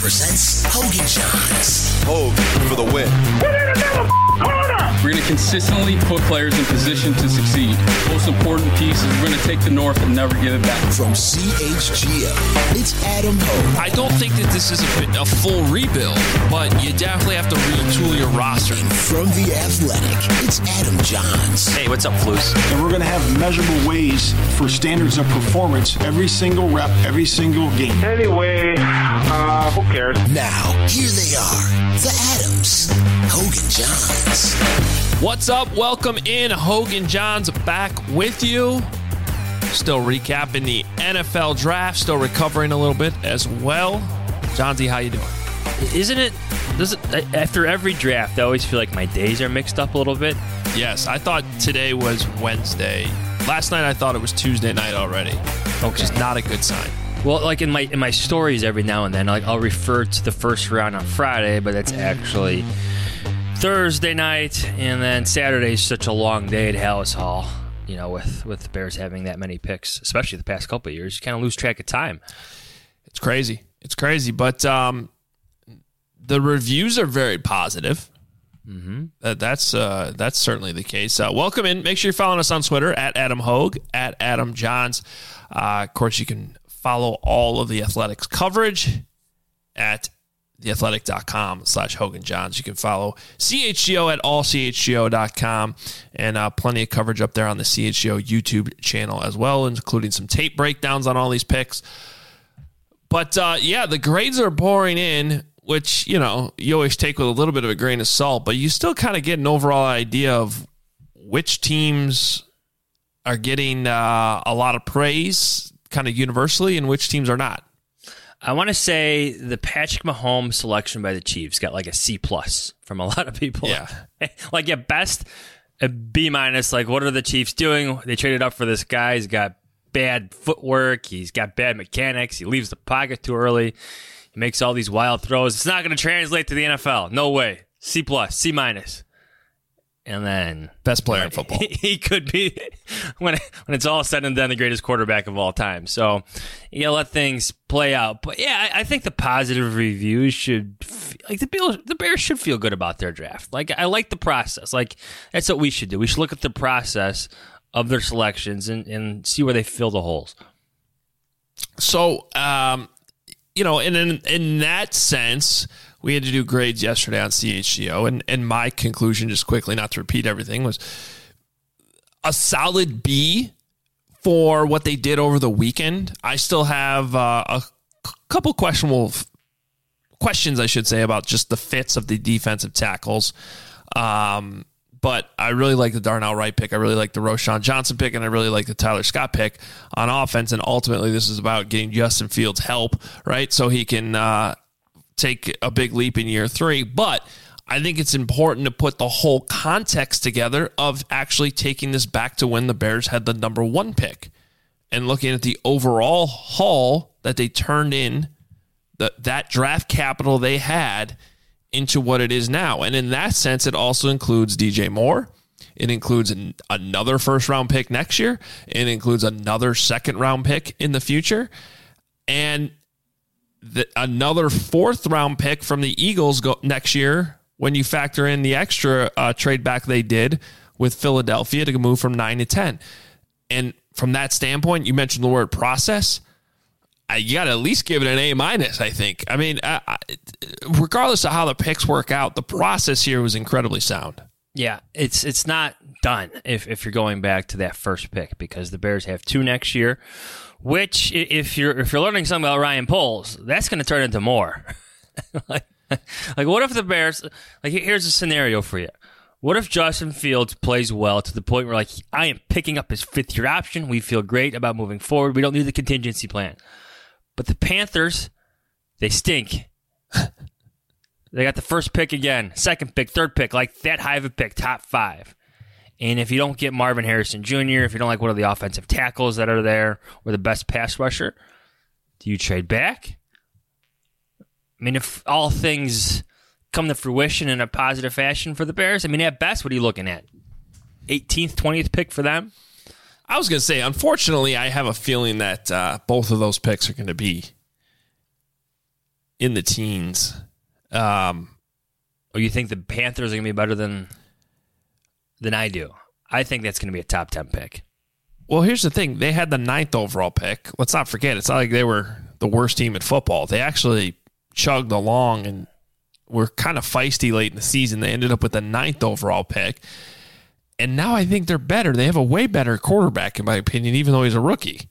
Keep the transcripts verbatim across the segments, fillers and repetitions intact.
presents Hogan Johns. Hogan for the win. We're going to consistently put players in position to succeed. Most important piece is we're going to take the North and never give it back. From C H G O, it's Adam Hogue. I don't think that this is a, a full rebuild, but you definitely have to retool your roster. And from The Athletic, it's Adam Johns. Hey, what's up, Flus? And we're going to have measurable ways for standards of performance every single rep, every single game. Anyway, uh, who cares? Now, here they are, the Adams, Hogan Johns. What's up? Welcome in. Hogan Johns back with you. Still recapping the N F L draft. Still recovering a little bit as well. Johnsy, how you doing? Isn't it, does it, after every draft, I always feel like my days are mixed up a little bit. Yes, I thought today was Wednesday. Last night I thought it was Tuesday night already. Okay. Which is not a good sign. Well, like in my in my stories every now and then, like I'll refer to the first round on Friday, but it's actually Thursday night, and then Saturday is such a long day at Hallis Hall, you know, with, with the Bears having that many picks, especially the past couple of years. You kind of lose track of time. It's crazy. It's crazy, but um, the reviews are very positive. Mm-hmm. That, that's uh, that's certainly the case. Uh, welcome in. Make sure you're following us on Twitter, at Adam Hogue, at Adam Johns. Uh, of course, you can follow all of the Athletics coverage at theathletic.com slash Hogan Johns. You can follow C H G O at all C H G O dot com, and uh, plenty of coverage up there on the C H G O YouTube channel as well, including some tape breakdowns on all these picks. But uh, yeah, the grades are pouring in, which, you know, you always take with a little bit of a grain of salt, but you still kind of get an overall idea of which teams are getting uh, a lot of praise kind of universally and which teams are not. I want to say the Patrick Mahomes selection by the Chiefs got like a C plus from a lot of people. Yeah. Like at best, a B minus. Like, what are the Chiefs doing? They traded up for this guy. He's got bad footwork. He's got bad mechanics. He leaves the pocket too early. He makes all these wild throws. It's not going to translate to the N F L. No way. C plus, C minus. And then best player in football. He, he could be, when when it's all said and done, the greatest quarterback of all time. So you gotta let things play out. But yeah, I, I think the positive reviews should, like the Bears, the Bears should feel good about their draft. Like, I like the process. Like, that's what we should do. We should look at the process of their selections and, and see where they fill the holes. So, um, you know, in, in in that sense, we had to do grades yesterday on C H G O, and, and my conclusion, just quickly, not to repeat everything, was a solid B for what they did over the weekend. I still have uh, a c- couple questionable f- questions, I should say, about just the fits of the defensive tackles. Um, but I really like the Darnell Wright pick. I really like the Roschon Johnson pick, and I really like the Tyler Scott pick on offense. And ultimately, this is about getting Justin Fields help, right? So he can uh, take a big leap in year three. But I think it's important to put the whole context together of actually taking this back to when the Bears had the number one pick and looking at the overall haul that they turned in, the, that draft capital they had into what it is now. And in that sense, it also includes D J Moore. It includes an, another first-round pick next year. It includes another second-round pick in the future. And the, another fourth-round pick from the Eagles go, next year when you factor in the extra uh, trade back they did with Philadelphia to move from nine to ten. And from that standpoint, you mentioned the word process. You got to at least give it an A minus, I think. I mean, uh, regardless of how the picks work out, the process here was incredibly sound. Yeah, it's it's not done if, if you're going back to that first pick, because the Bears have two next year, which if you're if you're learning something about Ryan Poles, that's going to turn into more. like, like, what if the Bears, like, here's a scenario for you. What if Justin Fields plays well to the point where, like, I am picking up his fifth-year option. We feel great about moving forward. We don't need the contingency plan. But the Panthers, they stink. They got the first pick again, second pick, third pick, like that high of a pick, top five. And if you don't get Marvin Harrison Junior, if you don't like one of the offensive tackles that are there, or the best pass rusher, do you trade back? I mean, if all things come to fruition in a positive fashion for the Bears, I mean, at best, what are you looking at? eighteenth, twentieth pick for them? I was going to say, unfortunately, I have a feeling that uh, both of those picks are going to be in the teens. Um, Or you think the Panthers are going to be better than than I do? I think that's going to be a top ten pick. Well, here's the thing. They had the ninth overall pick. Let's not forget, it's not like they were the worst team in football. They actually chugged along and were kind of feisty late in the season. They ended up with the ninth overall pick. And now I think they're better. They have a way better quarterback, in my opinion, even though he's a rookie.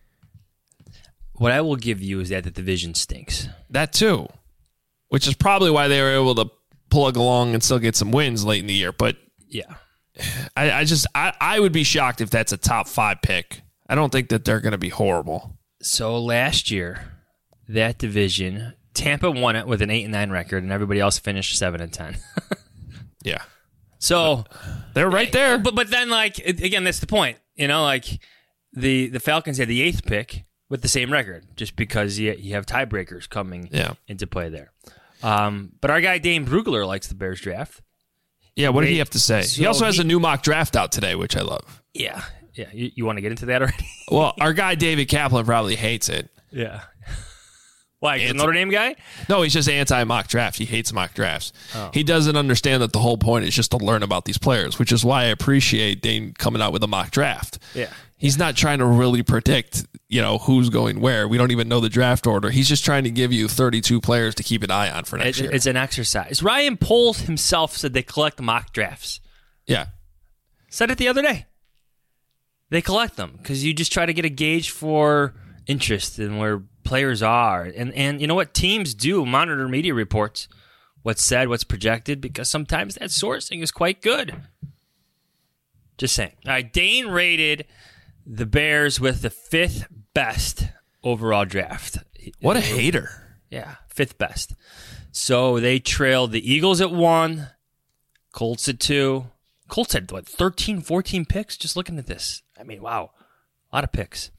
What I will give you is that the division stinks. That too, which is probably why they were able to plug along and still get some wins late in the year. But Yeah. I, I just, I, I would be shocked if that's a top five pick. I don't think that they're going to be horrible. So last year, that division, Tampa won it with an eight and nine record, and everybody else finished seven and ten. Yeah. So They're right there. But but then like it- again, that's the point. You know, like the the Falcons had the eighth pick with the same record, just because you you have tiebreakers coming Yeah. into play there. Um, but our guy Dane Brugler likes the Bears draft. Yeah, what did Wait, he have to say? so he also has he- a new mock draft out today, which I love. Yeah, yeah. You, you want to get into that already? Well, our guy David Kaplan probably hates it. Yeah. Why? 'Cause It's- Notre Dame guy? No, he's just anti-mock draft. He hates mock drafts. Oh. He doesn't understand that the whole point is just to learn about these players, which is why I appreciate Dane coming out with a mock draft. Yeah. He's not trying to really predict, you know, who's going where. We don't even know the draft order. He's just trying to give you thirty-two players to keep an eye on for next It, year. it's an exercise. Ryan Poles himself said they collect mock drafts. Yeah. Said it the other day. They collect them because you just try to get a gauge for interest in where players are. And, and you know what? Teams do monitor media reports, what's said, what's projected, because sometimes that sourcing is quite good. Just saying. All right, Dane rated the Bears with the fifth best overall draft. What a hater. Yeah, fifth best. So they trailed the Eagles at one, Colts at two. Colts had, what, thirteen, fourteen picks? Just looking at this. I mean, wow. A lot of picks.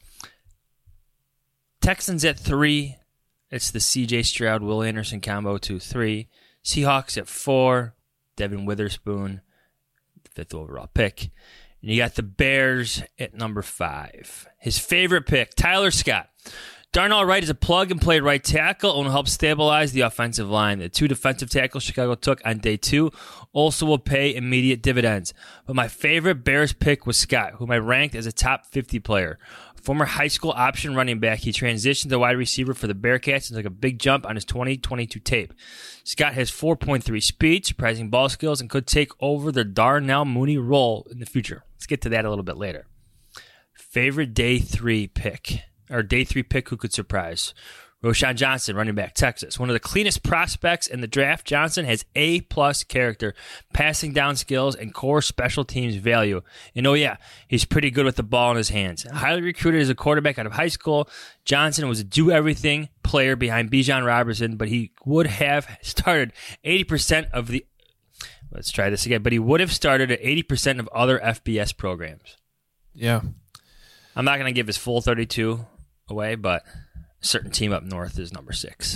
Texans at three. It's the C J Stroud, Will Anderson combo, two three. Seahawks at four. Devin Witherspoon, fifth overall pick. And you got the Bears at number five. His favorite pick, Tyler Scott. Darnell Wright is a plug-and-play right tackle and will help stabilize the offensive line. The two defensive tackles Chicago took on day two also will pay immediate dividends. But my favorite Bears pick was Scott, whom I ranked as a top fifty player. Former high school option running back, he transitioned to wide receiver for the Bearcats and took a big jump on his twenty twenty-two tape. Scott has four point three speed, surprising ball skills, and could take over the Darnell Mooney role in the future. Let's get to that a little bit later. Favorite day three pick, or day three pick who could surprise? Roshan Johnson, running back, Texas. One of the cleanest prospects in the draft, Johnson has A-plus character, passing down skills, and core special teams value. And oh yeah, he's pretty good with the ball in his hands. Highly recruited as a quarterback out of high school, Johnson was a do-everything player behind Bijan Robertson, but he would have started eighty percent of the... Let's try this again. But he would have started at eighty percent of other F B S programs. Yeah. I'm not going to give his full thirty-two away, but... a certain team up north is number six.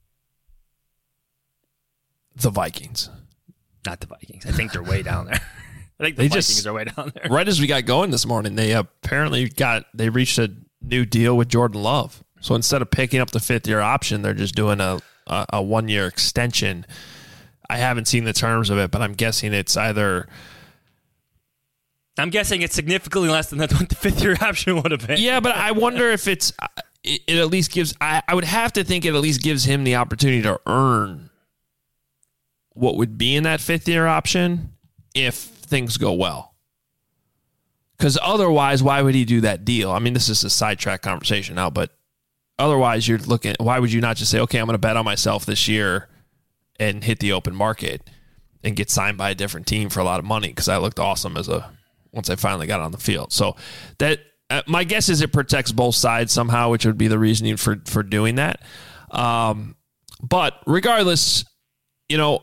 The Vikings. Not the Vikings. I think they're way down there. I think the They Vikings just- are way down there. Right as we got going this morning, they apparently got, they reached a new deal with Jordan Love. So instead of picking up the fifth year option, they're just doing a, a, a one year extension. I haven't seen the terms of it, but I'm guessing it's either... I'm guessing it's significantly less than what the fifth year option would have been. Yeah, but I wonder if it's... It, it at least gives... I, I would have to think it at least gives him the opportunity to earn what would be in that fifth year option if things go well. Because otherwise, why would he do that deal? I mean, this is a sidetrack conversation now, but otherwise, you're looking... Why would you not just say, okay, I'm going to bet on myself this year and hit the open market and get signed by a different team for a lot of money because I looked awesome as a... once I finally got on the field. So that uh, my guess is it protects both sides somehow, which would be the reasoning for, for doing that. Um, but regardless, you know,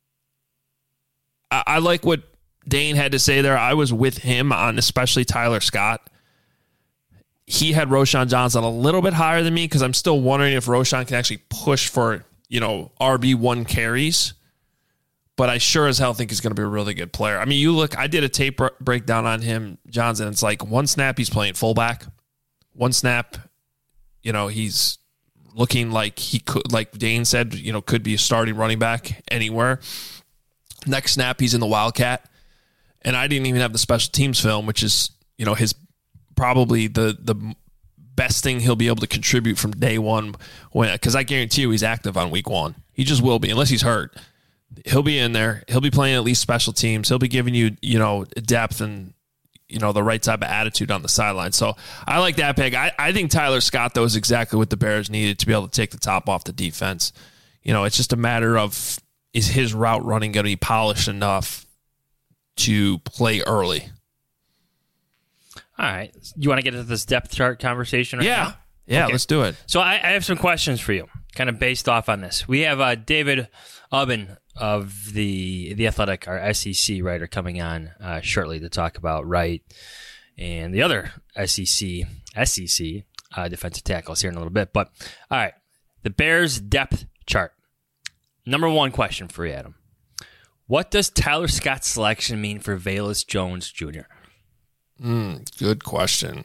I, I like what Dane had to say there. I was with him on especially Tyler Scott. He had Roshan Johnson a little bit higher than me because I'm still wondering if Roshan can actually push for, you know, R B one carries. But I sure as hell think he's going to be a really good player. I mean, you look, I did a tape breakdown on him, Johnson. It's like one snap, he's playing fullback. One snap, you know, he's looking like he could, like Dane said, you know, could be a starting running back anywhere. Next snap, he's in the Wildcat. And I didn't even have the special teams film, which is, you know, his probably the the best thing he'll be able to contribute from day one. When because I guarantee you he's active on week one. He just will be, unless he's hurt. He'll be in there. He'll be playing at least special teams. He'll be giving you, you know, depth and, you know, the right type of attitude on the sideline. So I like that pick. I, I think Tyler Scott, though, is exactly what the Bears needed to be able to take the top off the defense. You know, it's just a matter of, is his route running going to be polished enough to play early? All right. You want to get into this depth chart conversation right yeah. now? Yeah, Okay. let's do it. So I, I have some questions for you, kind of based off on this. We have uh, David Ubben of the the Athletic, our S E C writer, coming on uh, shortly to talk about Wright and the other S E C S E C uh, defensive tackles here in a little bit. But all right, the Bears depth chart. Number one question for you, Adam. What does Tyler Scott's selection mean for Velus Jones Junior? Mm, good question.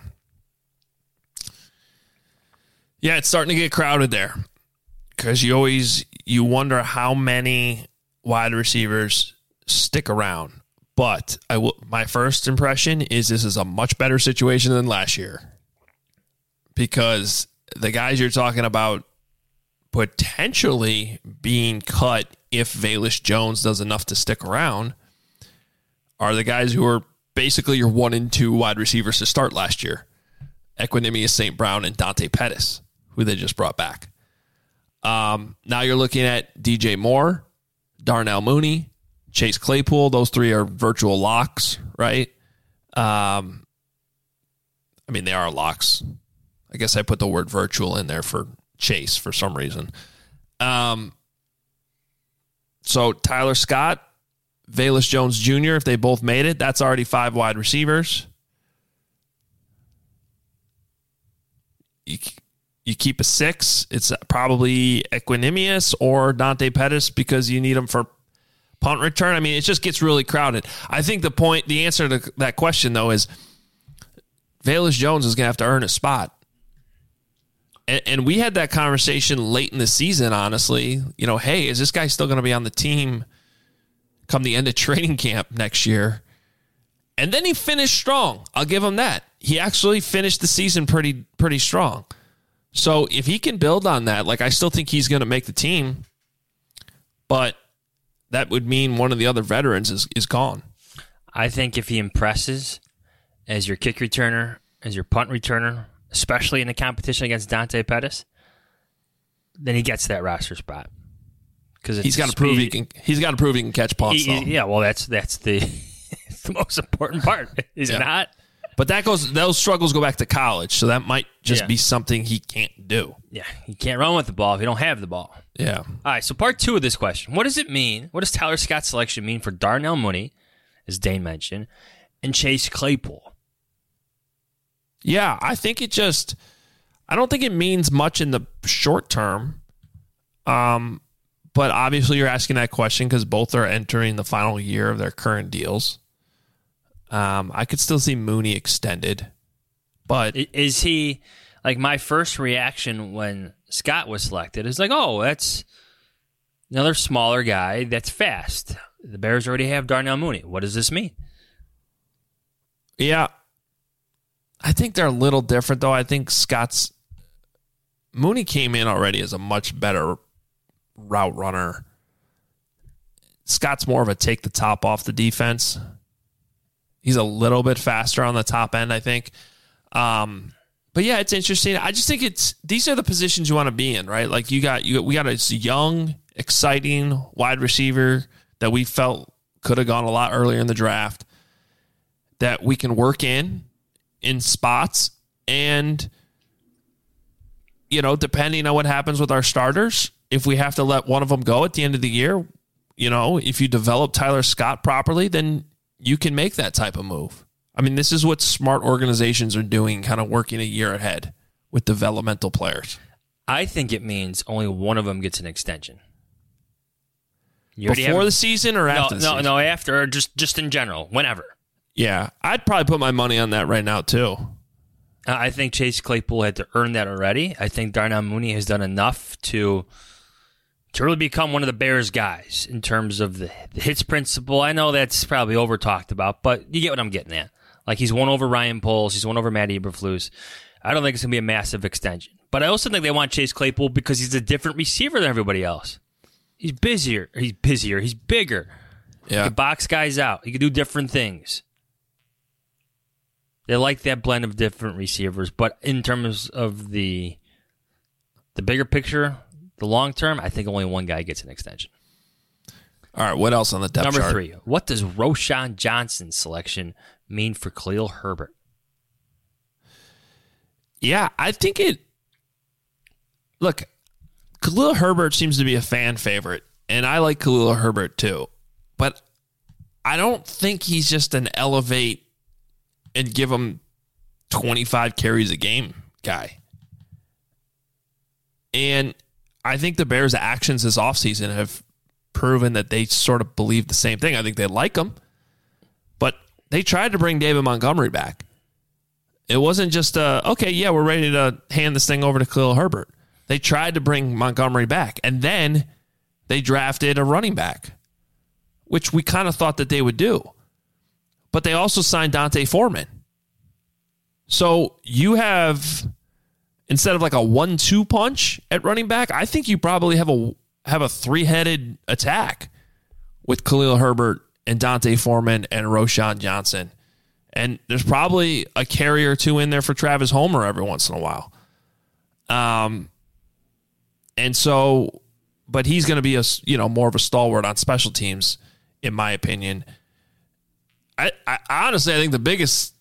Yeah, it's starting to get crowded there because you always you wonder how many wide receivers stick around. But I will. My first impression is this is a much better situation than last year because the guys you're talking about potentially being cut if Velus Jones does enough to stick around are the guys who are basically your one and two wide receivers to start last year. Equanimous Saint Brown and Dante Pettis, who they just brought back. Um, now you're looking at D J Moore, Darnell Mooney, Chase Claypool. Those three are virtual locks, right? Um, I mean, they are locks. I guess I put the word virtual in there for Chase for some reason. Um, so Tyler Scott, Velus Jones Junior, if they both made it, that's already five wide receivers. You, you keep a six. It's probably Equanimous or Dante Pettis because you need them for punt return. I mean, it just gets really crowded. I think the point, the answer to that question, though, is Velus Jones is going to have to earn a spot. And, and we had that conversation late in the season, honestly. You know, hey, is this guy still going to be on the team come the end of training camp next year? And then he finished strong. I'll give him that. He actually finished the season pretty pretty strong. So if he can build on that, like I still think he's going to make the team, but that would mean one of the other veterans is, is gone. I think if he impresses as your kick returner, as your punt returner, especially in the competition against Dante Pettis, then he gets that roster spot. Because he's got to prove he can. He's got to prove he can catch punts. He, yeah, well, that's that's the the most important part, is yeah. it not? But that goes; those struggles go back to college, so that might just yeah. be something he can't do. Yeah, you can't run with the ball if you don't have the ball. Yeah. All right. So part two of this question: what does it mean? What does Tyler Scott's selection mean for Darnell Mooney, as Dane mentioned, and Chase Claypool? Yeah, I think it just, I don't think it means much in the short term. Um, but obviously you're asking that question because both are entering the final year of their current deals. Um, I could still see Mooney extended, but is he like my first reaction when Scott was selected is like, oh, that's another smaller guy that's fast. The Bears already have Darnell Mooney. What does this mean? Yeah. I think they're a little different, though. I think Scott's Mooney came in already as a much better route runner. Scott's more of a take the top off the defense. He's a little bit faster on the top end, I think. Um, but yeah, it's interesting. I just think it's these are the positions you want to be in, right? Like you got you we got a young, exciting wide receiver that we felt could have gone a lot earlier in the draft that we can work in. in spots, and you know, depending on what happens with our starters, if we have to let one of them go at the end of the year, you know, if you develop Tyler Scott properly, then you can make that type of move. I mean, this is what smart organizations are doing, kind of working a year ahead with developmental players. I think it means only one of them gets an extension. You Before have, the season or after no, the no, season? No, after, or just, just in general, whenever. Yeah, I'd probably put my money on that right now, too. I think Chase Claypool had to earn that already. I think Darnell Mooney has done enough to to really become one of the Bears guys in terms of the, the hits principle. I know that's probably over talked about, but you get what I'm getting at. Like, he's won over Ryan Poles, he's won over Matt Eberflus. I don't think it's going to be a massive extension. But I also think they want Chase Claypool because he's a different receiver than everybody else. He's busier. He's busier. He's bigger. Yeah. He can box guys out. He can do different things. They like that blend of different receivers. But in terms of the the bigger picture, the long term, I think only one guy gets an extension. All right, what else on the depth Number chart? three, what does Roschon Johnson's selection mean for Khalil Herbert? Yeah, I think it... Look, Khalil Herbert seems to be a fan favorite, and I like Khalil Herbert too. But I don't think he's just an elevate and give him twenty-five carries a game guy. And I think the Bears' actions this offseason have proven that they sort of believe the same thing. I think they like him, but they tried to bring David Montgomery back. It wasn't just, uh, okay, yeah, we're ready to hand this thing over to Khalil Herbert. They tried to bring Montgomery back, and then they drafted a running back, which we kind of thought that they would do. But they also signed Dante Foreman. So you have, instead of like a one two punch at running back, I think you probably have a have a three-headed attack with Khalil Herbert and Dante Foreman and Roschon Johnson. And there's probably a carry or two in there for Travis Homer every once in a while. Um, and so, but he's going to be a, you know, more of a stalwart on special teams, in my opinion. I, I honestly, I think the biggest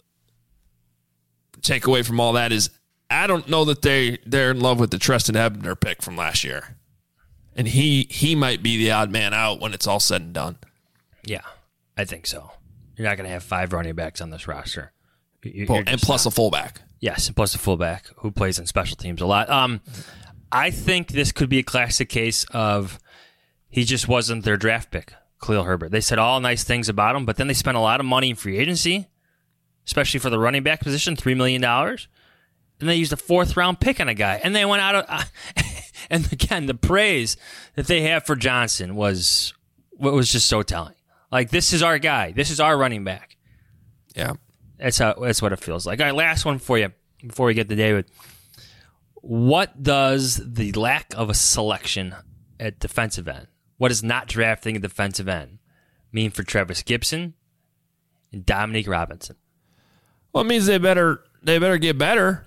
takeaway from all that is I don't know that they they're in love with the Treston Ebner pick from last year, and he he might be the odd man out when it's all said and done. Yeah, I think so. You're not going to have five running backs on this roster. You're, well, you're and plus not. a fullback. Yes, and plus a fullback who plays in special teams a lot. Um, I think this could be a classic case of he just wasn't their draft pick, Khalil Herbert. They said all nice things about him, but then they spent a lot of money in free agency, especially for the running back position, three million dollars. And they used a fourth-round pick on a guy. And they went out of... Uh, and again, the praise that they have for Johnson was was just so telling. Like, this is our guy. This is our running back. Yeah. That's how. That's what it feels like. All right, last one for you before we get to David. What does the lack of a selection at defensive end, what does not drafting a defensive end mean for Travis Gibson and Dominique Robinson? Well, it means they better they better get better.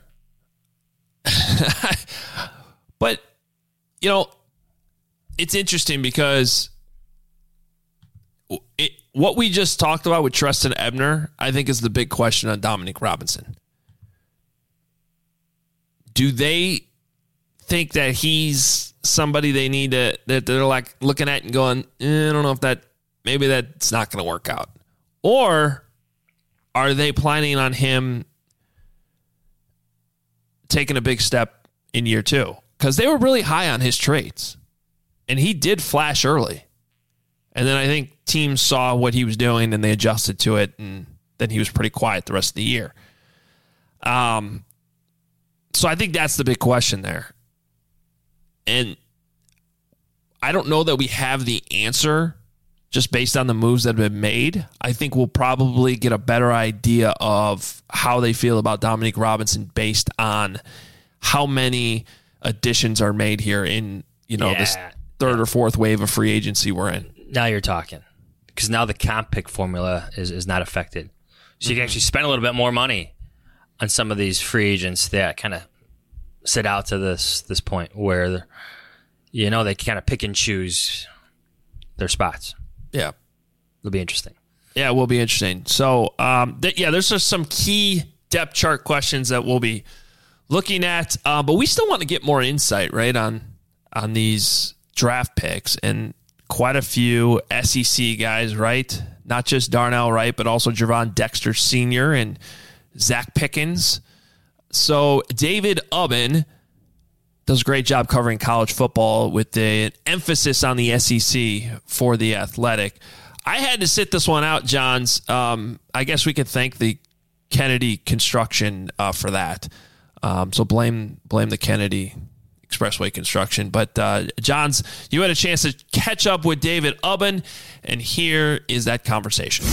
But, you know, it's interesting because it, what we just talked about with Treston Ebner, I think, is the big question on Dominique Robinson. Do they think that he's somebody they need to, that they're like looking at and going, eh, I don't know if that, maybe that's not going to work out? Or are they planning on him taking a big step in year two? Because they were really high on his traits. And he did flash early. And then I think teams saw what he was doing and they adjusted to it. And then he was pretty quiet the rest of the year. Um, so I think that's the big question there. And I don't know that we have the answer just based on the moves that have been made. I think we'll probably get a better idea of how they feel about Dominique Robinson based on how many additions are made here in, you know, yeah. this third or fourth wave of free agency we're in. Now you're talking. Because now the comp pick formula is, is not affected. So you can actually spend a little bit more money on some of these free agents that kind of sit out to this this point where, you know, they kind of pick and choose their spots. Yeah. It'll be interesting. Yeah, it will be interesting. So, um, th- yeah, there's just some key depth chart questions that we'll be looking at. Uh, but we still want to get more insight, right, on on these draft picks. And quite a few S E C guys, right? Not just Darnell Wright, but also Javon Dexter Senior and Zach Pickens. So David Ubben does a great job covering college football with the emphasis on the S E C for The Athletic. I had to sit this one out, Johns. Um, I guess we could thank the Kennedy construction uh, for that. Um, so blame blame the Kennedy Expressway construction. But uh, Johns, you had a chance to catch up with David Ubben, and here is that conversation.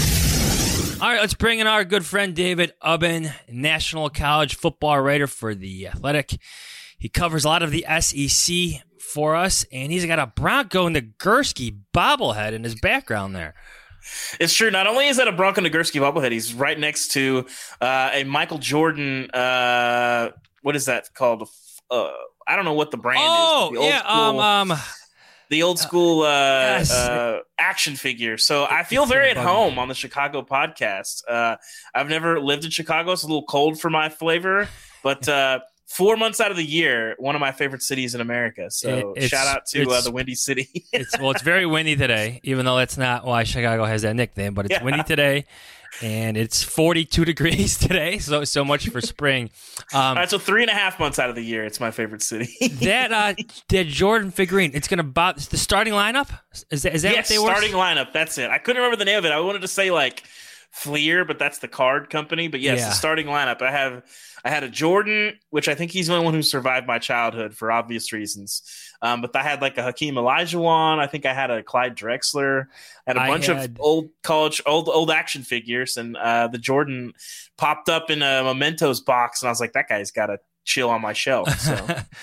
All right, let's bring in our good friend David Ubben, national college football writer for The Athletic. He covers a lot of the S E C for us, and he's got a Bronco Nagurski bobblehead in his background there. It's true. Not only is that a Bronco Nagurski bobblehead, he's right next to uh, a Michael Jordan. Uh, what is that called? Uh, I don't know what the brand oh, is. Oh, yeah. School, um, um, the old school uh, yes. uh, action figure. So I feel very at home on the Chicago podcast. Uh, I've never lived in Chicago. It's a little cold for my flavor, but uh, four months out of the year, one of my favorite cities in America. So It's- shout out to uh, it's- the Windy City. it's well, it's very windy today, even though that's not why Chicago has that nickname. But it's Yeah. windy today, and it's forty-two degrees today. So so much for spring. Um, All right, so three and a half months out of the year, it's my favorite city. that uh, that Jordan figurine, it's gonna bob the starting lineup. Is that is that yes, what they were? starting lineup. That's it. I couldn't remember the name of it. I wanted to say like Fleer, but that's the card company. But yes, Yeah. the starting lineup. I have I had a Jordan, which I think he's the only one who survived my childhood for obvious reasons. Um, but I had like a Hakeem Olajuwon. I think I had a Clyde Drexler. I had a I bunch had- of old college, old old action figures, and uh, the Jordan popped up in a Mementos box, and I was like, that guy's got to chill on my shelf. So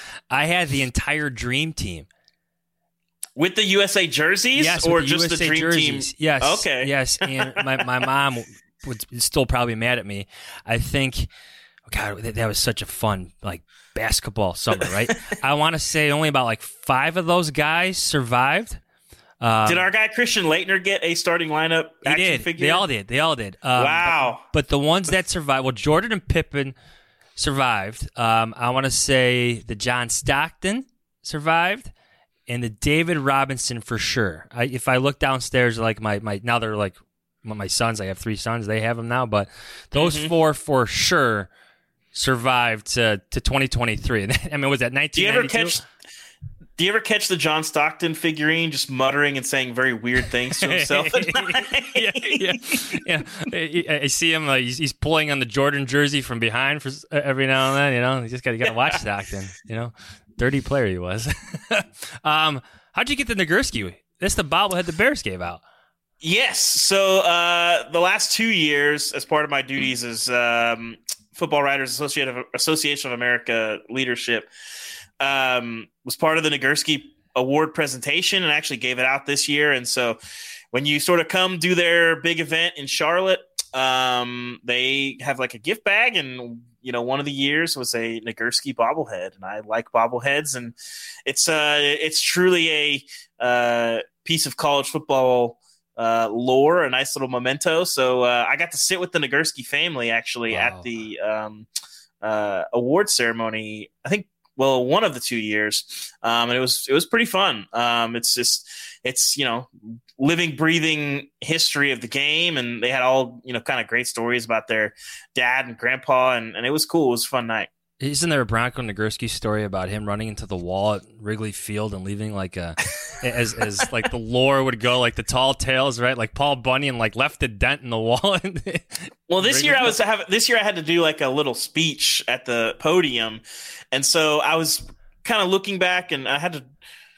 I had the entire Dream Team. with the U S A jerseys, Yes, or with the just U S A the Dream jerseys. Team? Yes. Okay. Yes. And my, my mom would still probably mad at me. I think, oh God, that, that was such a fun, like, basketball summer, right? I want to say only about like five of those guys survived. Um, Did our guy Christian Leitner get a starting lineup he action did. figure? They all did. They all did. Um, Wow. But, but the ones that survived, well, Jordan and Pippen survived. Um, I want to say the John Stockton survived. And the David Robinson for sure. I, if I look downstairs, like my, my now they're like my sons. I have three sons. They have them now, but those Mm-hmm. four for sure survived to, to twenty twenty-three. I mean, was that Do you nineteen ever ninety-two? catch? Do you ever catch the John Stockton figurine just muttering and saying very weird things to himself at night? yeah, yeah, yeah. I, I see him. Uh, he's, he's pulling on the Jordan jersey from behind for s- every now and then. You know, you just got to got to watch Stockton. You know, dirty player he was. um, how'd you get the Nagurski? That's the bobblehead the Bears gave out. Yes. So uh, the last two years, as part of my duties as um, Football Writers Association of, Association of America leadership, um, was part of the Nagurski Award presentation and actually gave it out this year. And so when you sort of come do their big event in Charlotte, um, they have like a gift bag, and you know, one of the years was a Nagurski bobblehead, and I like bobbleheads, and it's uh, it's truly a uh, piece of college football uh, lore, a nice little memento. So uh, I got to sit with the Nagurski family actually Wow. at the um, uh, award ceremony. I think. Well, one of the two years, um, and it was it was pretty fun. Um, it's just it's you know living, breathing history of the game, and they had all you know kind of great stories about their dad and grandpa, and, and it was cool. It was a fun night. Isn't there a Bronco Nagurski story about him running into the wall at Wrigley Field and leaving like a, as as like the lore would go, like the tall tales, right? Like Paul Bunyan like left a dent in the wall. Well, this year I was have this year I had to do like a little speech at the podium, and so I was kind of looking back, and I had to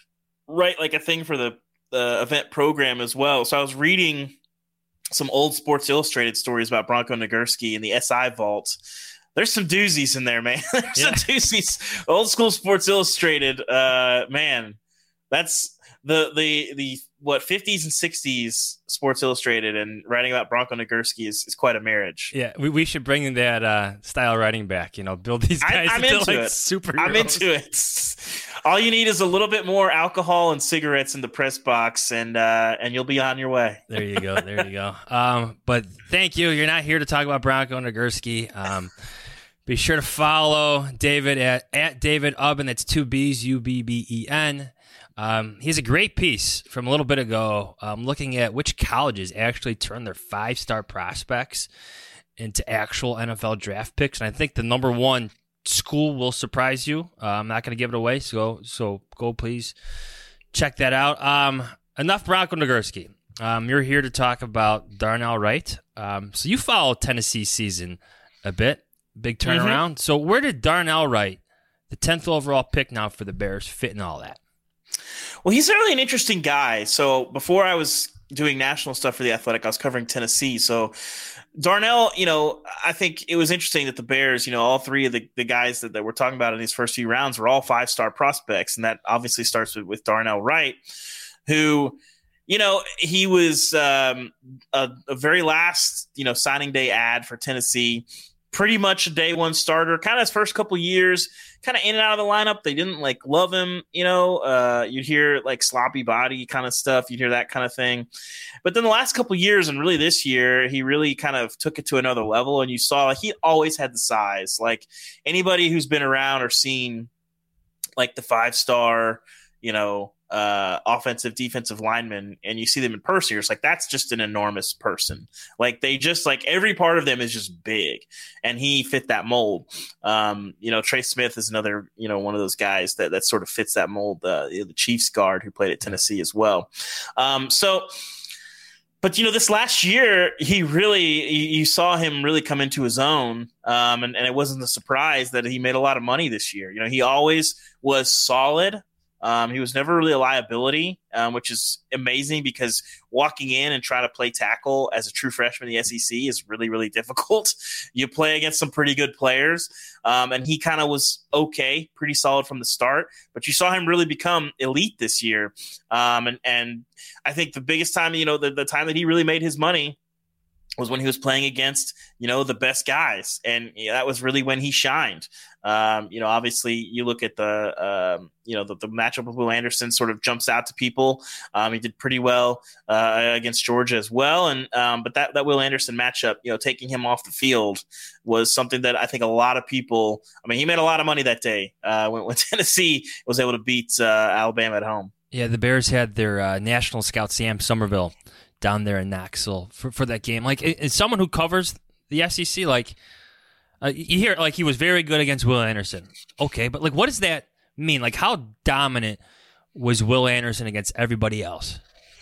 write like a thing for the the event program as well. So I was reading some old Sports Illustrated stories about Bronco Nagurski in the S I vault. There's some doozies in there, man. There's Yeah. some doozies. Old school Sports Illustrated, uh, man. That's the the the what fifties and sixties Sports Illustrated, and writing about Bronco Nagurski is, is quite a marriage. Yeah, we, we should bring that uh, style writing back. You know, build these I- guys I'm into, into like it. superheroes. I'm into it. All you need is a little bit more alcohol and cigarettes in the press box, and uh, and you'll be on your way. There you go. There you go. Um, but thank you. You're not here to talk about Bronco Nagurski. Um, be sure to follow David at, at David Ubben. That's two B's, U B B E N. Um, he has a great piece from a little bit ago um, looking at which colleges actually turn their five-star prospects into actual N F L draft picks. And I think the number one school will surprise you. Uh, I'm not going to give it away, so so go please check that out. Um, enough Bronco Nagurski. Um, you're here to talk about Darnell Wright. Um, so you followed Tennessee's season a bit. Big turnaround. Mm-hmm. So where did Darnell Wright, the tenth overall pick now for the Bears, fit in all that? Well, he's really an interesting guy. So before I was doing national stuff for The Athletic, I was covering Tennessee. So Darnell, you know, I think it was interesting that the Bears, you know, all three of the, the guys that, that we're talking about in these first few rounds were all five-star prospects. And that obviously starts with, with Darnell Wright, who, you know, he was um, a, a very last, you know, signing day ad for Tennessee. Pretty much a day one starter, kind of his first couple years, kind of in and out of the lineup. They didn't like love him, you know, uh, you'd hear like sloppy body kind of stuff. You'd hear that kind of thing. But then the last couple years and really this year, he really kind of took it to another level. And you saw like, he always had the size. Like anybody who's been around or seen like the five star, you know, uh, offensive, defensive linemen, and you see them in person, you're just like, that's just an enormous person. Like they just like every part of them is just big, and he fit that mold. Um, you know, Trey Smith is another, you know, one of those guys that, that sort of fits that mold. Uh, the Chiefs guard who played at Tennessee as well. Um, so, but you know, this last year, he really, you saw him really come into his own. Um, and, and it wasn't a surprise that he made a lot of money this year. You know, he always was solid. Um, he was never really a liability, um, which is amazing because walking in and trying to play tackle as a true freshman in the S E C is really, really difficult. You play against some pretty good players, um, and he kind of was okay, pretty solid from the start. But you saw him really become elite this year. Um, and, and I think the biggest time, you know, the, the time that he really made his money was when he was playing against, you know, the best guys. And you know, that was really when he shined. Um, you know, obviously you look at the, um, you know, the, the matchup with Will Anderson sort of jumps out to people. Um, he did pretty well uh, against Georgia as well. And um, but that, that Will Anderson matchup, you know, taking him off the field was something that I think a lot of people, I mean, he made a lot of money that day uh, when, when Tennessee was able to beat uh, Alabama at home. Yeah, the Bears had their uh, national scout, Sam Somerville, down there in Knoxville for, for that game. Like, as someone who covers the S E C, like, uh, you hear, like, he was very good against Will Anderson. Okay, but, like, what does that mean? Like, how dominant was Will Anderson against everybody else?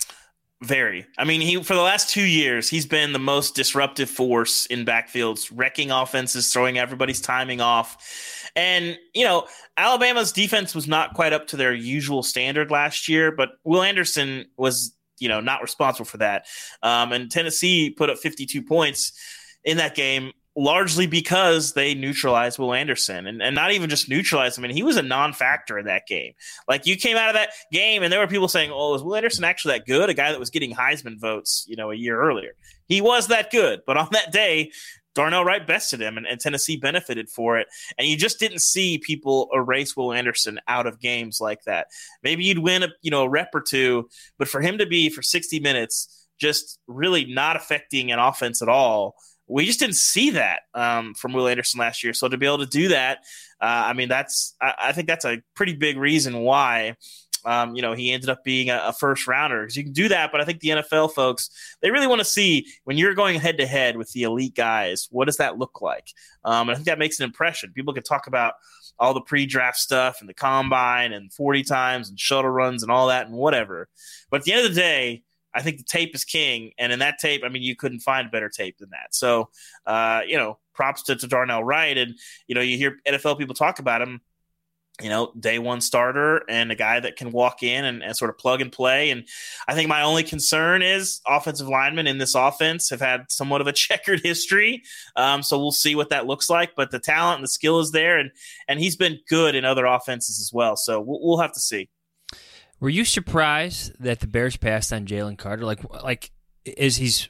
Very. I mean, he for the last two years, he's been the most disruptive force in backfields, wrecking offenses, throwing everybody's timing off. And, you know, Alabama's defense was not quite up to their usual standard last year, but Will Anderson was, you know, not responsible for that. Um, and Tennessee put up fifty-two points in that game, largely because they neutralized Will Anderson, and, and not even just neutralized him. I mean, he was a non-factor in that game. Like, you came out of that game and there were people saying, oh, is Will Anderson actually that good? A guy that was getting Heisman votes, you know, a year earlier. He was that good. But on that day, Darnell Wright bested him, and, and Tennessee benefited for it. And you just didn't see people erase Will Anderson out of games like that. Maybe you'd win a, you know, a rep or two, but for him to be for sixty minutes just really not affecting an offense at all, we just didn't see that um, from Will Anderson last year. So to be able to do that, uh, I mean, that's I, I think that's a pretty big reason why Um, you know, he ended up being a, a first rounder, because you can do that. But I think the N F L folks, they really want to see when you're going head to head with the elite guys, what does that look like? Um, and I think that makes an impression. People can talk about all the pre-draft stuff and the combine and forty times and shuttle runs and all that and whatever. But at the end of the day, I think the tape is king. And in that tape, I mean, you couldn't find better tape than that. So, uh, you know, props to, to Darnell Wright. And, you know, you hear N F L people talk about him, you know, day one starter and a guy that can walk in and, and sort of plug and play. And I think my only concern is offensive linemen in this offense have had somewhat of a checkered history. Um, so we'll see what that looks like, but the talent and the skill is there, and, and he's been good in other offenses as well. So we'll, we'll have to see. Were you surprised that the Bears passed on Jalen Carter? Like, like is he's,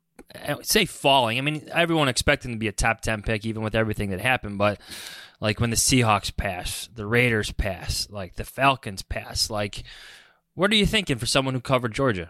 I would say falling. I mean, everyone expected him to be a top ten pick, even with everything that happened, but like when the Seahawks pass, the Raiders pass, like the Falcons pass, like what are you thinking for someone who covered Georgia?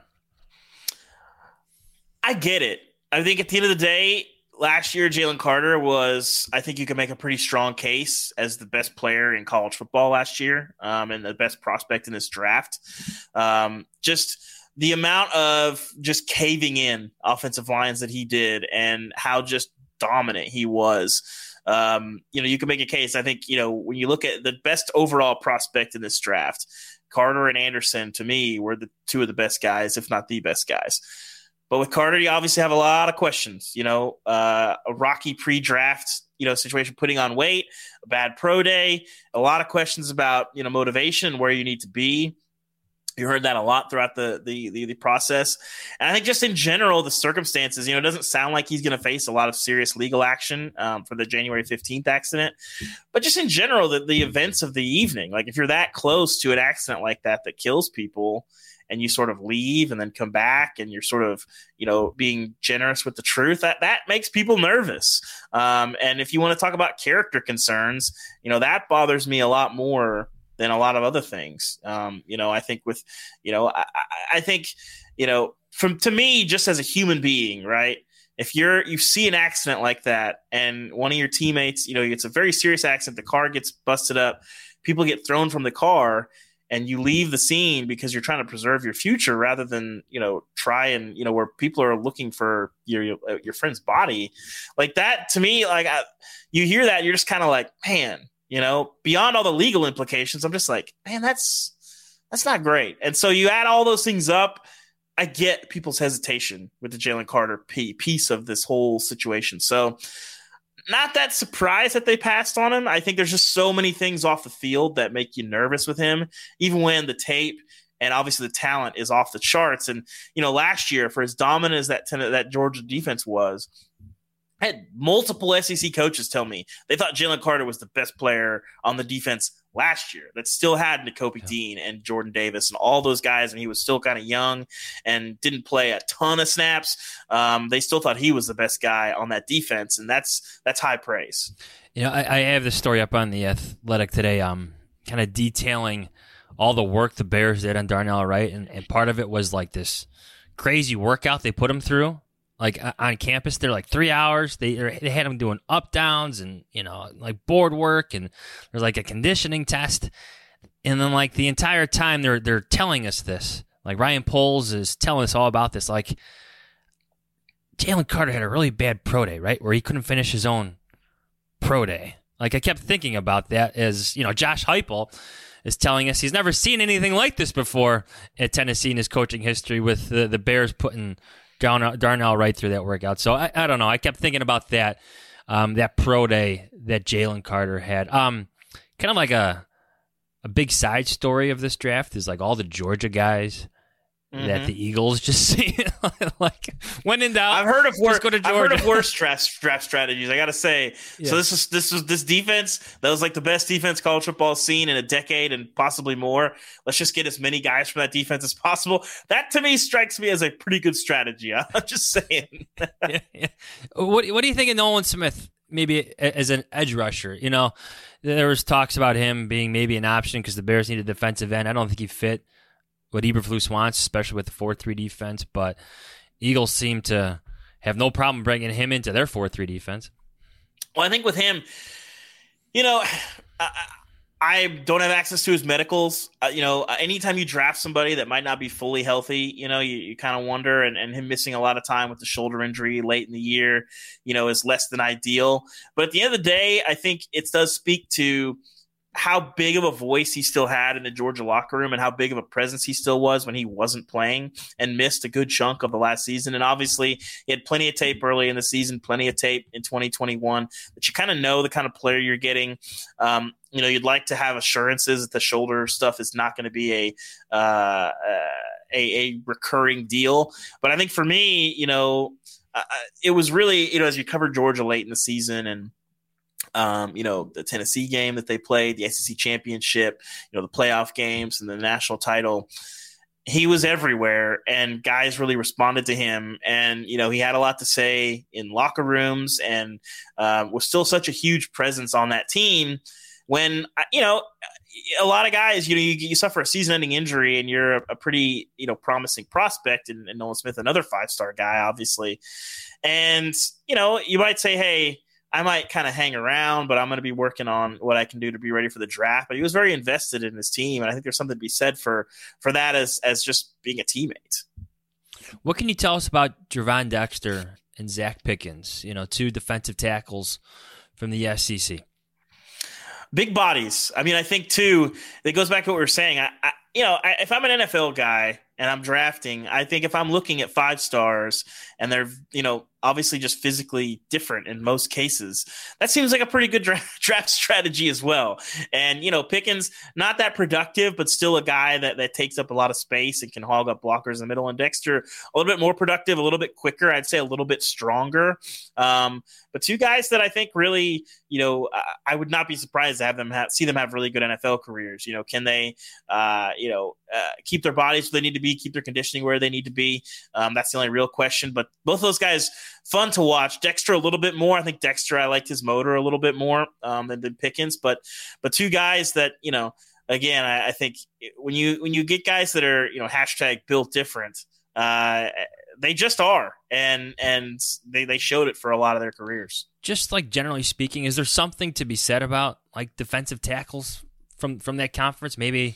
I get it. I think at the end of the day, last year Jalen Carter was, I think you can make a pretty strong case as the best player in college football last year, um, and the best prospect in this draft. Um, just the amount of just caving in offensive lines that he did and how just dominant he was. Um, you know, you can make a case. I think, you know, when you look at the best overall prospect in this draft, Carter and Anderson, to me, were the two of the best guys, if not the best guys. But with Carter, you obviously have a lot of questions. You know, uh, a rocky pre-draft, you know, situation, putting on weight, a bad pro day, a lot of questions about, you know, motivation, where you need to be. You heard that a lot throughout the, the the the process. And I think just in general, the circumstances, you know, it doesn't sound like he's going to face a lot of serious legal action um, for the January fifteenth accident. But just in general, the, the events of the evening, like if you're that close to an accident like that that kills people and you sort of leave and then come back and you're sort of, you know, being generous with the truth, that, that makes people nervous. Um, and if you want to talk about character concerns, you know, that bothers me a lot more than a lot of other things. Um, you know, I think with, you know, I, I think, you know, from to me, just as a human being, right? If you're, you see an accident like that and one of your teammates, you know, it's a very serious accident, the car gets busted up, people get thrown from the car, and you leave the scene because you're trying to preserve your future rather than, you know, try and, you know, where people are looking for your, your, your friend's body like that. To me, like I, you hear that, you're just kind of like, man, you know, beyond all the legal implications, I'm just like, man, that's that's not great. And so you add all those things up, I get people's hesitation with the Jalen Carter piece of this whole situation. So not that surprised that they passed on him. I think there's just so many things off the field that make you nervous with him, even when the tape and obviously the talent is off the charts. And, you know, last year, for as dominant as that, that Georgia defense was, I had multiple S E C coaches tell me they thought Jalen Carter was the best player on the defense last year that still had Nakobe yeah. Dean and Jordan Davis and all those guys, and he was still kind of young and didn't play a ton of snaps. Um, they still thought he was the best guy on that defense, and that's that's high praise. You know, I, I have this story up on The Athletic today, um, kind of detailing all the work the Bears did on Darnell Wright, and, and part of it was like this crazy workout they put him through. Like on campus, they're like three hours. They they had him doing up downs and, you know, like board work, and there's like a conditioning test. And then like the entire time they're they're telling us this. Like Ryan Poles is telling us all about this. Like Jalen Carter had a really bad pro day, right, where he couldn't finish his own pro day. Like I kept thinking about that as, you know, Josh Heupel is telling us he's never seen anything like this before at Tennessee in his coaching history, with the, the Bears putting Darnell right through that workout. So I, I don't know. I kept thinking about that, um, that pro day that Jalen Carter had. Um, kind of like a a big side story of this draft is like all the Georgia guys mm-hmm. that the Eagles just see. Like when in doubt, I've heard of worse. Go to I've heard of worse draft, draft strategies. I got to say. Yeah. So this is this was this defense that was like the best defense college football has seen in a decade and possibly more. Let's just get as many guys from that defense as possible. That to me strikes me as a pretty good strategy. I'm just saying. yeah, yeah. What What do you think of Nolan Smith? Maybe as an edge rusher, you know, there was talks about him being maybe an option because the Bears need a defensive end. I don't think he fit what Eberflus wants, especially with the four three defense, but Eagles seem to have no problem bringing him into their four three defense. Well, I think with him, you know, I, I don't have access to his medicals. Uh, you know, anytime you draft somebody that might not be fully healthy, you know, you, you kind of wonder, and, and him missing a lot of time with the shoulder injury late in the year, you know, is less than ideal. But at the end of the day, I think it does speak to how big of a voice he still had in the Georgia locker room and how big of a presence he still was when he wasn't playing and missed a good chunk of the last season. And obviously he had plenty of tape early in the season, plenty of tape in twenty twenty-one, but you kind of know the kind of player you're getting. Um, you know, you'd like to have assurances that the shoulder stuff is not going to be a, uh, a, a recurring deal. But I think for me, you know, uh, it was really, you know, as you covered Georgia late in the season and, Um, you know, the Tennessee game that they played, the S E C championship, you know, the playoff games and the national title. He was everywhere, and guys really responded to him. And, you know, he had a lot to say in locker rooms and uh, was still such a huge presence on that team when, you know, a lot of guys, you know, you, you suffer a season-ending injury and you're a, a pretty, you know, promising prospect, and, and Nolan Smith, another five-star guy, obviously. And, you know, you might say, hey, I might kind of hang around, but I'm going to be working on what I can do to be ready for the draft. But he was very invested in his team, and I think there's something to be said for for that as as just being a teammate. What can you tell us about Gervon Dexter and Zach Pickens, you know, two defensive tackles from the S E C? Big bodies. I mean, I think, too, it goes back to what we were saying. I, I you know, I, if I'm an N F L guy and I'm drafting, I think if I'm looking at five stars and they're, you know, obviously just physically different in most cases, that seems like a pretty good draft, draft strategy as well. And, you know, Pickens, not that productive, but still a guy that, that takes up a lot of space and can hog up blockers in the middle. And Dexter, a little bit more productive, a little bit quicker, I'd say a little bit stronger. Um, but two guys that I think really, you know, I, I would not be surprised to have them have, see them have really good N F L careers. You know, can they, uh, you know, uh, keep their bodies where they need to be, keep their conditioning where they need to be? Um, that's the only real question. But both of those guys, fun to watch. Dexter a little bit more. I think Dexter, I liked his motor a little bit more um, than, than Pickens. But but two guys that, you know, again, I, I think when you when you get guys that are, you know, hashtag built different, uh, they just are. And and they, they showed it for a lot of their careers. Just like generally speaking, is there something to be said about like defensive tackles from, from that conference? Maybe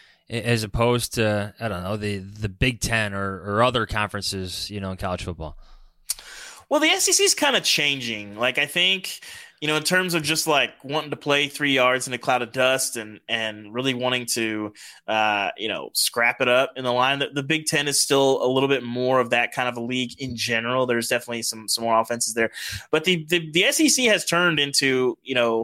as opposed to, I don't know, the, the Big Ten or, or other conferences, you know, in college football? Well, the S E C is kind of changing. Like, I think, you know, in terms of just like wanting to play three yards in a cloud of dust and and really wanting to, uh, you know, scrap it up in the line, the, the Big Ten is still a little bit more of that kind of a league in general. There's definitely some some more offenses there, but the the, the S E C has turned into, you know,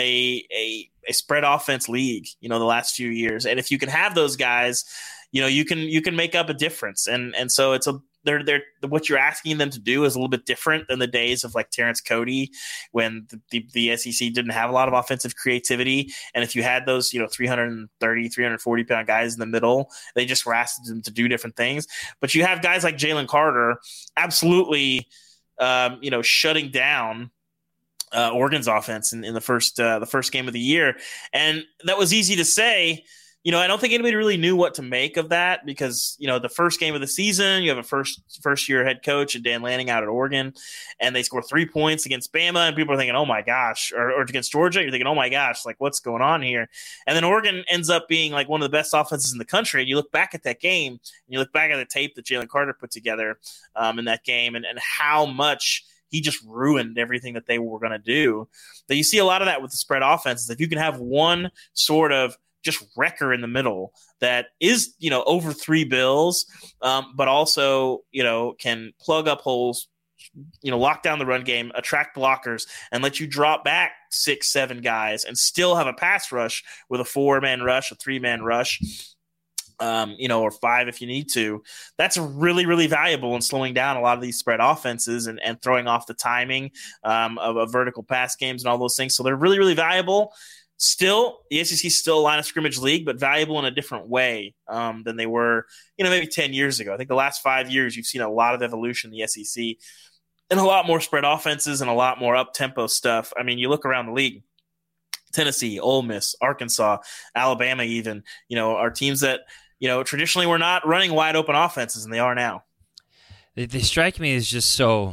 a a a spread offense league, you know, the last few years. And if you can have those guys, you know, you can you can make up a difference. And and so it's a They're, they're, what you're asking them to do is a little bit different than the days of like Terrence Cody when the, the, the S E C didn't have a lot of offensive creativity. And if you had those, you know, three thirty, three forty pound guys in the middle, they just were asking them to do different things. But you have guys like Jalen Carter absolutely, um, you know, shutting down uh, Oregon's offense in, in the first uh, the first game of the year. And that was easy to say. You know, I don't think anybody really knew what to make of that because, you know, the first game of the season, you have a first first year head coach and Dan Lanning out at Oregon, and they score three points against Bama, and people are thinking, oh my gosh, or, or against Georgia, you're thinking, oh my gosh, like what's going on here? And then Oregon ends up being like one of the best offenses in the country, and you look back at that game, and you look back at the tape that Jalen Carter put together um, in that game, and, and how much he just ruined everything that they were going to do. But you see a lot of that with the spread offenses. If you can have one sort of just wrecker in the middle that is, you know, over three bills, um, but also, you know, can plug up holes, you know, lock down the run game, attract blockers, and let you drop back six, seven guys and still have a pass rush with a four-man rush, a three-man rush, um, you know, or five if you need to. That's really, really valuable in slowing down a lot of these spread offenses and, and throwing off the timing um, of, of vertical pass games and all those things. So they're really, really valuable. Still, the S E C is still a line of scrimmage league, but valuable in a different way um, than they were, you know, maybe ten years ago. I think the last five years, you've seen a lot of evolution in the S E C and a lot more spread offenses and a lot more up-tempo stuff. I mean, you look around the league, Tennessee, Ole Miss, Arkansas, Alabama even, you know, are teams that, you know, traditionally were not running wide-open offenses, and they are now. They, they strike me as just so,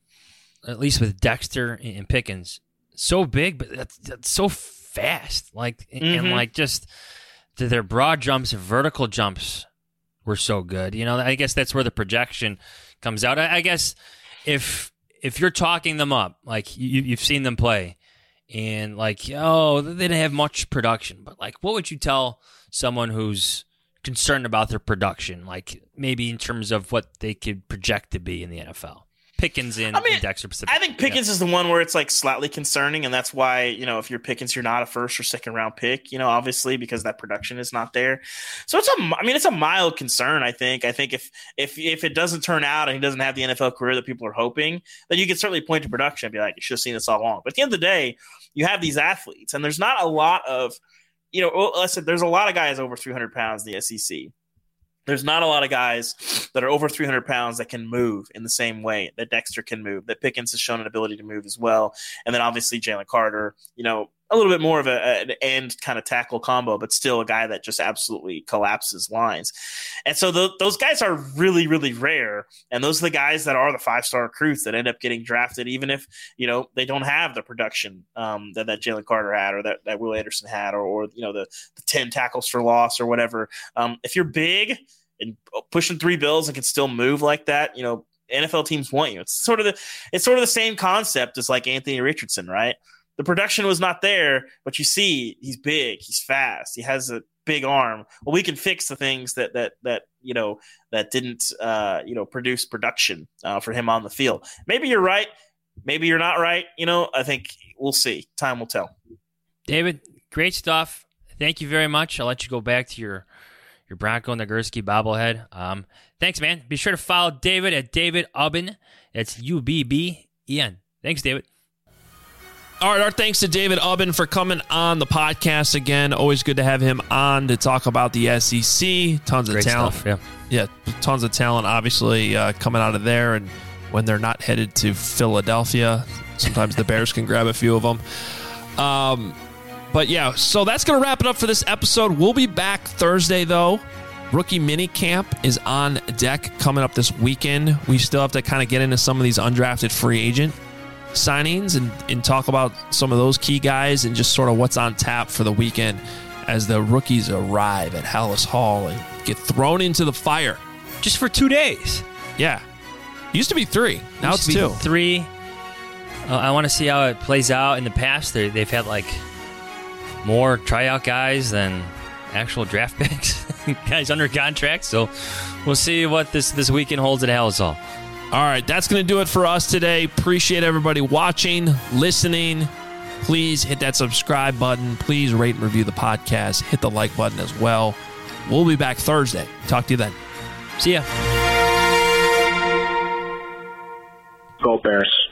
at least with Dexter and Pickens, so big, but that's, that's so fast, like mm-hmm. and like just their broad jumps, vertical jumps were so good. You know, I guess that's where the projection comes out. I, I guess if if you're talking them up, like you, you've seen them play, and like oh they didn't have much production, but like what would you tell someone who's concerned about their production, like maybe in terms of what they could project to be in the N F L? Pickens in, I mean, in Dexter Pacific. I think Pickens yeah. is the one where it's like slightly concerning, and that's why, you know, if you're Pickens, you're not a first or second round pick, you know, obviously because that production is not there. So it's a, I mean, it's a mild concern. I think. I think if if if it doesn't turn out and he doesn't have the N F L career that people are hoping, then you can certainly point to production and be like, you should have seen this all along. But at the end of the day, you have these athletes, and there's not a lot of, you know, listen, there's a lot of guys over three hundred pounds in the S E C. There's not a lot of guys that are over three hundred pounds that can move in the same way that Dexter can move, that Pickens has shown an ability to move as well. And then obviously Jalen Carter, you know, a little bit more of a, an end kind of tackle combo, but still a guy that just absolutely collapses lines. And so the, those guys are really, really rare. And those are the guys that are the five-star recruits that end up getting drafted, even if, you know, they don't have the production um, that, that Jalen Carter had or that, that Will Anderson had or, or you know, the, the ten tackles for loss or whatever. Um, if you're big and pushing three bills and can still move like that, you know, N F L teams want you. It's sort of the, it's sort of the same concept as like Anthony Richardson, right? The production was not there, but you see he's big, he's fast, he has a big arm. Well, we can fix the things that that that you know that didn't uh, you know produce production uh, for him on the field. Maybe you're right. Maybe you're not right. You know, I think we'll see. Time will tell. David, great stuff. Thank you very much. I'll let you go back to your your Bronco Nagurski bobblehead. Um, thanks, man. Be sure to follow David at David Ubben. It's U B B E N. Thanks, David. All right, our thanks to David Ubben for coming on the podcast again. Always good to have him on to talk about the S E C. Tons Great of talent. stuff, yeah. yeah, tons of talent, obviously, uh, coming out of there. And when they're not headed to Philadelphia, sometimes the Bears can grab a few of them. Um, but, yeah, so that's going to wrap it up for this episode. We'll be back Thursday, though. Rookie mini camp is on deck coming up this weekend. We still have to kind of get into some of these undrafted free agent signings and, and talk about some of those key guys and just sort of what's on tap for the weekend as the rookies arrive at Hallis Hall and get thrown into the fire. Just for two days. Yeah. Used to be three. Now Used it's to be two. Three. Uh, I want to see how it plays out. In the past, they, they've had like more tryout guys than actual draft picks, guys under contract. So we'll see what this, this weekend holds at Hallis Hall. All right, that's going to do it for us today. Appreciate everybody watching, listening. Please hit that subscribe button. Please rate and review the podcast. Hit the like button as well. We'll be back Thursday. Talk to you then. See ya. Go Bears.